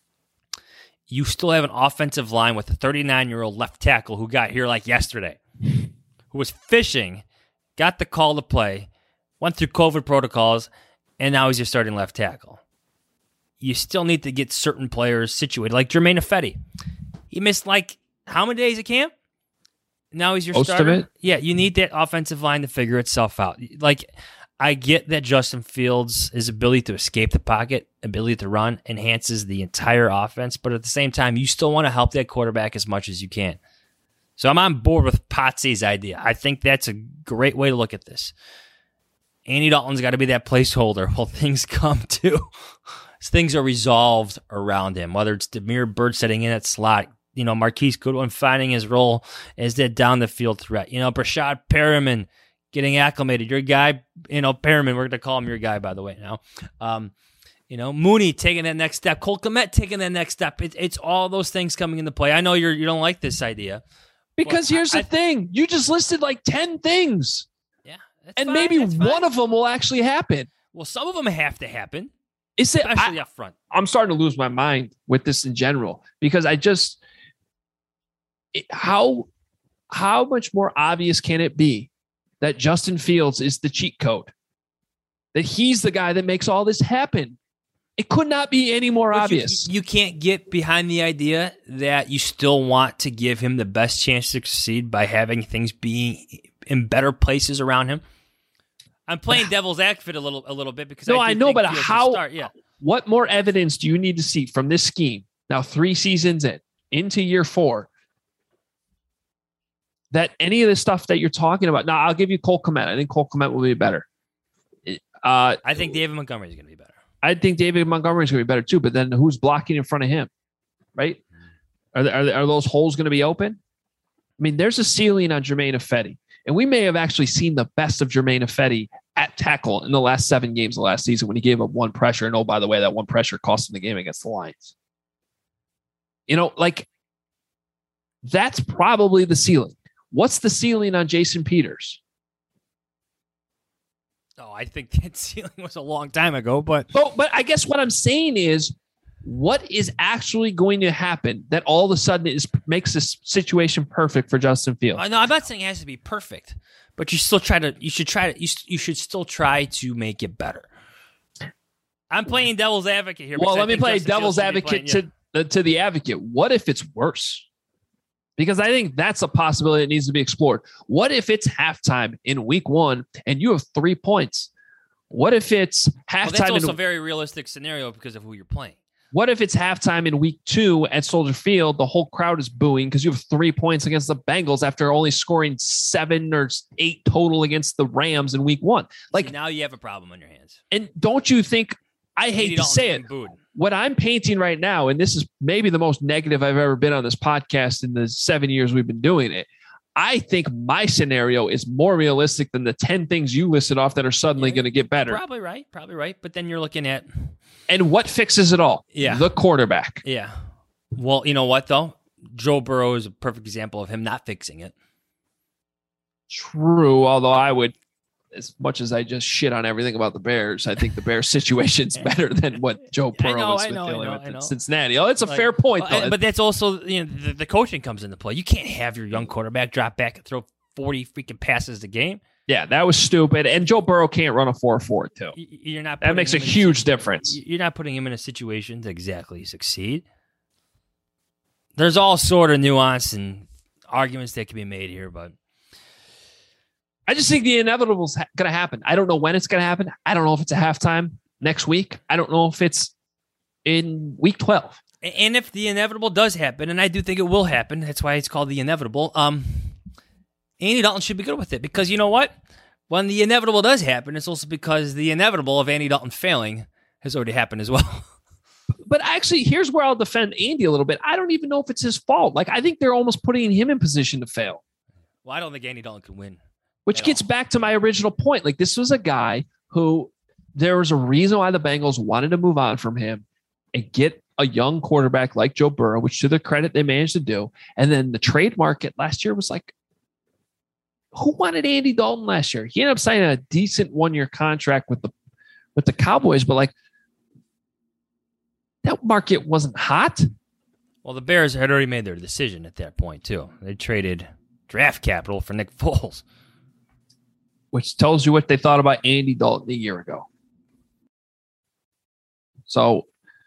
You still have an offensive line with a 39-year-old left tackle who got here like yesterday, who was fishing, got the call to play, went through COVID protocols, and now he's your starting left tackle. You still need to get certain players situated, like Jermaine Ifedi. He missed like how many days of camp? Now he's your Most starter. of it. Yeah, you need that offensive line to figure itself out. Like, I get that Justin Fields' his ability to escape the pocket, ability to run, enhances the entire offense, but at the same time, you still want to help that quarterback as much as you can. So I'm on board with Potsy's idea. I think that's a great way to look at this. Andy Dalton's got to be that placeholder while things come to. Things are resolved around him, whether it's Damiere Byrd setting in at slot, Marquise Goodwin finding his role as that down the field threat, Brashad Perriman getting acclimated. Your guy, Perriman, we're going to call him your guy, by the way, now. Mooney taking that next step. Cole Kmet taking that next step. It's all those things coming into play. I know you don't like this idea. Because here's the thing. You just listed like 10 things. Yeah. And fine, maybe one of them will actually happen. Well, some of them have to happen. Especially up front. I'm starting to lose my mind with this in general, because how much more obvious can it be that Justin Fields is the cheat code? That he's the guy that makes all this happen? It could not be any more obvious. You can't get behind the idea that you still want to give him the best chance to succeed by having things being in better places around him. I'm playing devil's advocate a little bit because I know, but what more evidence do you need to see from this scheme now, 3 seasons into year 4, that any of the stuff that you're talking about? Now, I'll give you Cole Kmet. I think Cole Kmet will be better. I think David Montgomery is going to be better. I think David Montgomery is going to be better too, but then who's blocking in front of him, right? Are those holes going to be open? I mean, there's a ceiling on Germain Ifedi, and we may have actually seen the best of Germain Ifedi at tackle in the last 7 games of last season when he gave up one pressure. And oh, by the way, that one pressure cost him the game against the Lions. Like that's probably the ceiling. What's the ceiling on Jason Peters? Oh, I think that ceiling was a long time ago, but I guess what I'm saying is, what is actually going to happen that all of a sudden makes this situation perfect for Justin Fields? No, I'm not saying it has to be perfect, but you should still try to make it better. I'm playing devil's advocate here. Well, let me play devil's advocate to the advocate. What if it's worse? Because I think that's a possibility that needs to be explored. What if it's halftime in week 1 and you have 3 points? What if it's halftime? That's also a very realistic scenario because of who you're playing. What if it's halftime in week 2 at Soldier Field? The whole crowd is booing because you have 3 points against the Bengals after only scoring 7 or 8 total against the Rams in week 1. Like, now you have a problem on your hands. And don't you think, I hate to say it, what I'm painting right now, and this is maybe the most negative I've ever been on this podcast in the 7 years we've been doing it, I think my scenario is more realistic than the 10 things you listed off that are suddenly going to get better. Probably right. But then you're looking at... And what fixes it all? Yeah. The quarterback. Yeah. Well, you know what, though? Joe Burrow is a perfect example of him not fixing it. True, although I would, as much as I just shit on everything about the Bears, I think the Bears situation's better than what Joe Burrow was dealing with in Cincinnati. Oh, it's a fair point, though. But that's also, the coaching comes into play. You can't have your young quarterback drop back and throw 40 freaking passes a game. Yeah, that was stupid. And Joe Burrow can't run a 4.4 too. That makes a huge difference. You're not putting him in a situation to exactly succeed. There's all sort of nuance and arguments that can be made here, but I just think the inevitable is going to happen. I don't know when it's going to happen. I don't know if it's a halftime next week. I don't know if it's in week 12. And if the inevitable does happen, and I do think it will happen, that's why it's called the inevitable, Andy Dalton should be good with it, because you know what? When the inevitable does happen, it's also because the inevitable of Andy Dalton failing has already happened as well. But actually, here's where I'll defend Andy a little bit. I don't even know if it's his fault. Like, I think they're almost putting him in position to fail. Well, I don't think Andy Dalton can win. Which gets back to my original point. Like, this was a guy who there was a reason why the Bengals wanted to move on from him and get a young quarterback like Joe Burrow, which to their credit, they managed to do. And then the trade market last year was like, who wanted Andy Dalton last year? He ended up signing a decent 1-year contract with the Cowboys, but like that market wasn't hot. Well, the Bears had already made their decision at that point too. They traded draft capital for Nick Foles, which tells you what they thought about Andy Dalton a year ago. So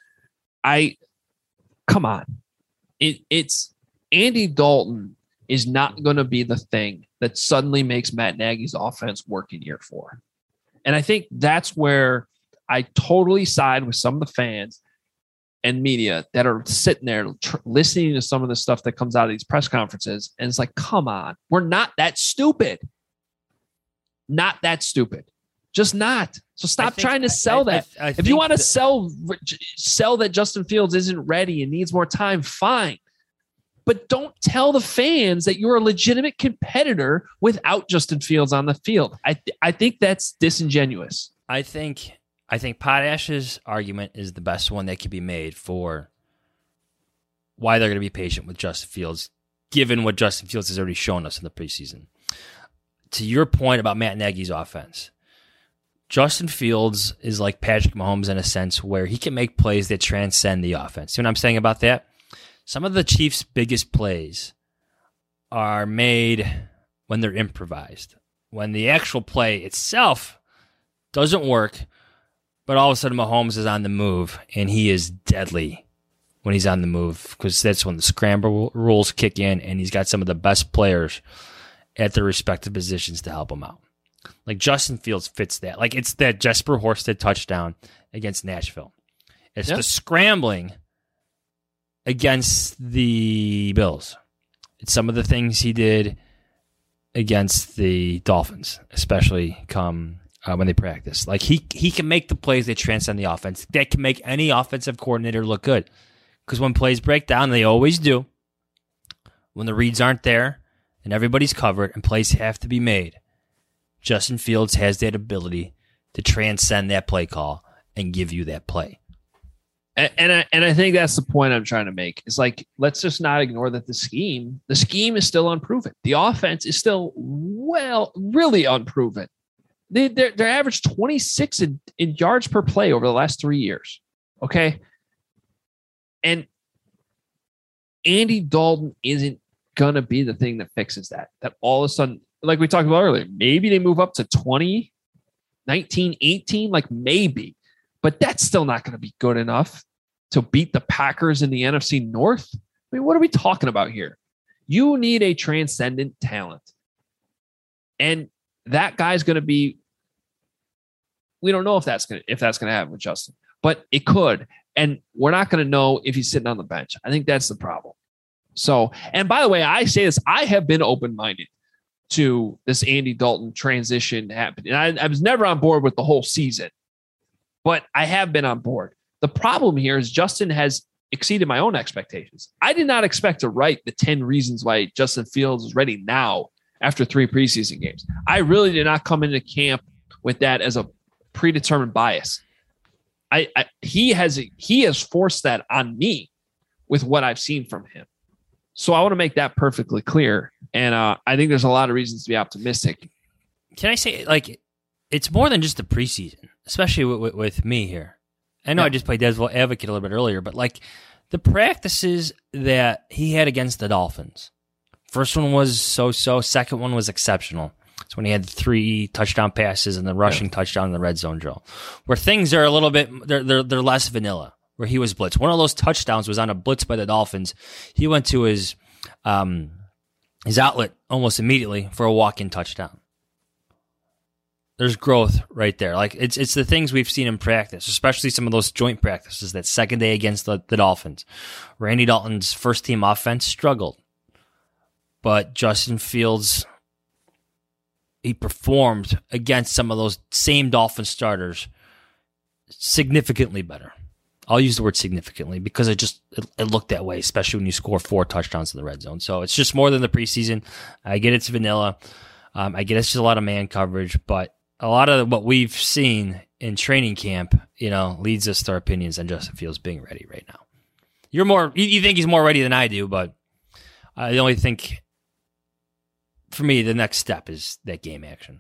come on. It's Andy Dalton is not going to be the thing that suddenly makes Matt Nagy's offense work in year 4. And I think that's where I totally side with some of the fans and media that are sitting there listening to some of the stuff that comes out of these press conferences. And it's like, come on, we're not that stupid. Not that stupid. Just not. So stop trying to sell that. If you want to sell that Justin Fields isn't ready and needs more time, fine. But don't tell the fans that you're a legitimate competitor without Justin Fields on the field. I think that's disingenuous. I think Potash's argument is the best one that can be made for why they're going to be patient with Justin Fields, given what Justin Fields has already shown us in the preseason. To your point about Matt Nagy's offense, Justin Fields is like Patrick Mahomes in a sense where he can make plays that transcend the offense. See what I'm saying about that? Some of the Chiefs' biggest plays are made when they're improvised. When the actual play itself doesn't work, but all of a sudden Mahomes is on the move, and he is deadly when he's on the move because that's when the scramble rules kick in, and he's got some of the best players at their respective positions to help him out. Like Justin Fields fits that. Like it's that Jesper Horsted touchdown against Nashville. It's the scrambling against the Bills. It's some of the things he did against the Dolphins, especially come when they practice. Like he can make the plays that transcend the offense. That can make any offensive coordinator look good. Because when plays break down, they always do. When the reads aren't there and everybody's covered and plays have to be made, Justin Fields has that ability to transcend that play call and give you that play. And I think that's the point I'm trying to make. It's like, let's just not ignore that the scheme is still unproven. The offense is still really unproven. They're averaged 26 in yards per play over the last 3 years. Okay. And Andy Dalton isn't going to be the thing that fixes that. That all of a sudden, like we talked about earlier, maybe they move up to 20, 19, 18, like maybe. But that's still not going to be good enough to beat the Packers in the NFC North. I mean, what are we talking about here? You need a transcendent talent. And that guy's going to be, we don't know if that's going to happen with Justin, but it could. And we're not going to know if he's sitting on the bench. I think that's the problem. So, and by the way, I say this, I have been open-minded to this Andy Dalton transition happening. And I was never on board with the whole season. But I have been on board. The problem here is Justin has exceeded my own expectations. I did not expect to write the 10 reasons why Justin Fields is ready now after 3 preseason games. I really did not come into camp with that as a predetermined bias. He has forced that on me with what I've seen from him. So I want to make that perfectly clear. And I think there's a lot of reasons to be optimistic. Can I say, like, it's more than just the preseason, especially with me here. I know I just played devil's advocate a little bit earlier, but like the practices that he had against the Dolphins, first one was so-so, second one was exceptional. It's when he had the 3 touchdown passes and the rushing touchdown in the red zone drill, where things are a little bit, they're less vanilla, where he was blitzed. One of those touchdowns was on a blitz by the Dolphins. He went to his outlet almost immediately for a walk-in touchdown. There's growth right there. Like it's the things we've seen in practice, especially some of those joint practices, that second day against the Dolphins. Randy Dalton's first team offense struggled, but Justin Fields, he performed against some of those same Dolphin starters significantly better. I'll use the word significantly because it looked that way, especially when you score 4 touchdowns in the red zone. So it's just more than the preseason. I get it's vanilla. I get it's just a lot of man coverage, but a lot of what we've seen in training camp, leads us to our opinions on Justin Fields being ready right now. You think he's more ready than I do, but I only think, for me, the next step is that game action.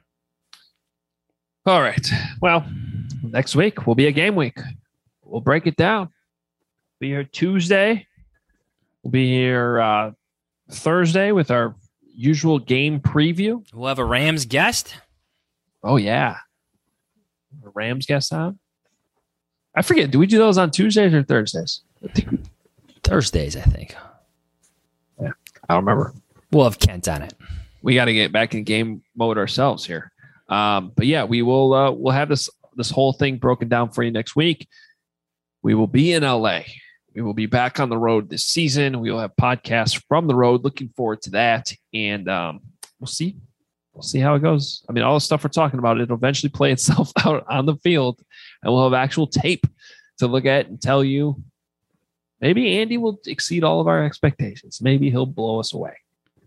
All right. Well, next week will be a game week. We'll break it down. Be here Tuesday. We'll be here Thursday with our usual game preview. We'll have a Rams guest. Oh, yeah. A Rams guest on? I forget. Do we do those on Tuesdays or Thursdays? Thursdays, I think. Yeah. I don't remember. We'll have Kent on it. We got to get back in game mode ourselves here. But yeah, we will. We'll have this whole thing broken down for you next week. We will be in LA. We will be back on the road this season. We will have podcasts from the road. Looking forward to that. And we'll see. We'll see how it goes. I mean, all the stuff we're talking about, it'll eventually play itself out on the field, and we'll have actual tape to look at and tell you. Maybe Andy will exceed all of our expectations. Maybe he'll blow us away.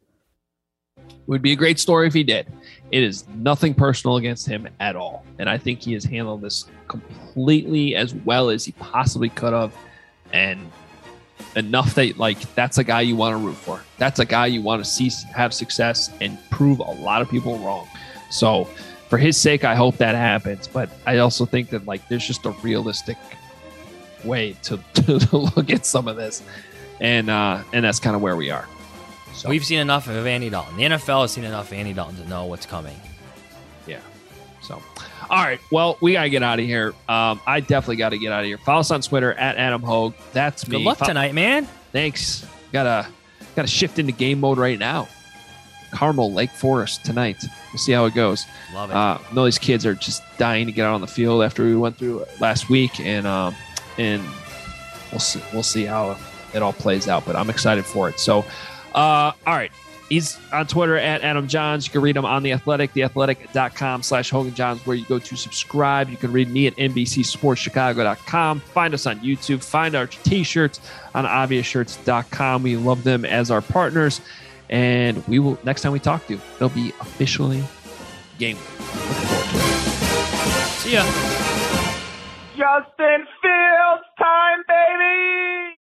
It would be a great story if he did. It is nothing personal against him at all. And I think he has handled this completely as well as he possibly could have. And enough that, that's a guy you want to root for. That's a guy you want to see have success and prove a lot of people wrong. So for his sake, I hope that happens. But I also think that, there's just a realistic way to look at some of this. And that's kind of where we are. So we've seen enough of Andy Dalton. The NFL has seen enough of Andy Dalton to know what's coming. Yeah. So, all right. Well, we got to get out of here. I definitely got to get out of here. Follow us on Twitter at Adam Hogue. That's me. Good luck tonight, man. Thanks. Gotta shift into game mode right now. Carmel, Lake Forest tonight. We'll see how it goes. Love it. I know these kids are just dying to get out on the field after we went through last week, and we'll see how it all plays out. But I'm excited for it. So, all right. He's on Twitter at Adam Johns. You can read him on The Athletic, theathletic.com/Hogan Johns, where you go to subscribe. You can read me at NBCSportsChicago.com. Find us on YouTube. Find our t-shirts on ObviousShirts.com. We love them as our partners. And we will, next time we talk to you, it'll be officially game week. Looking forward to it. See ya. Justin Fields.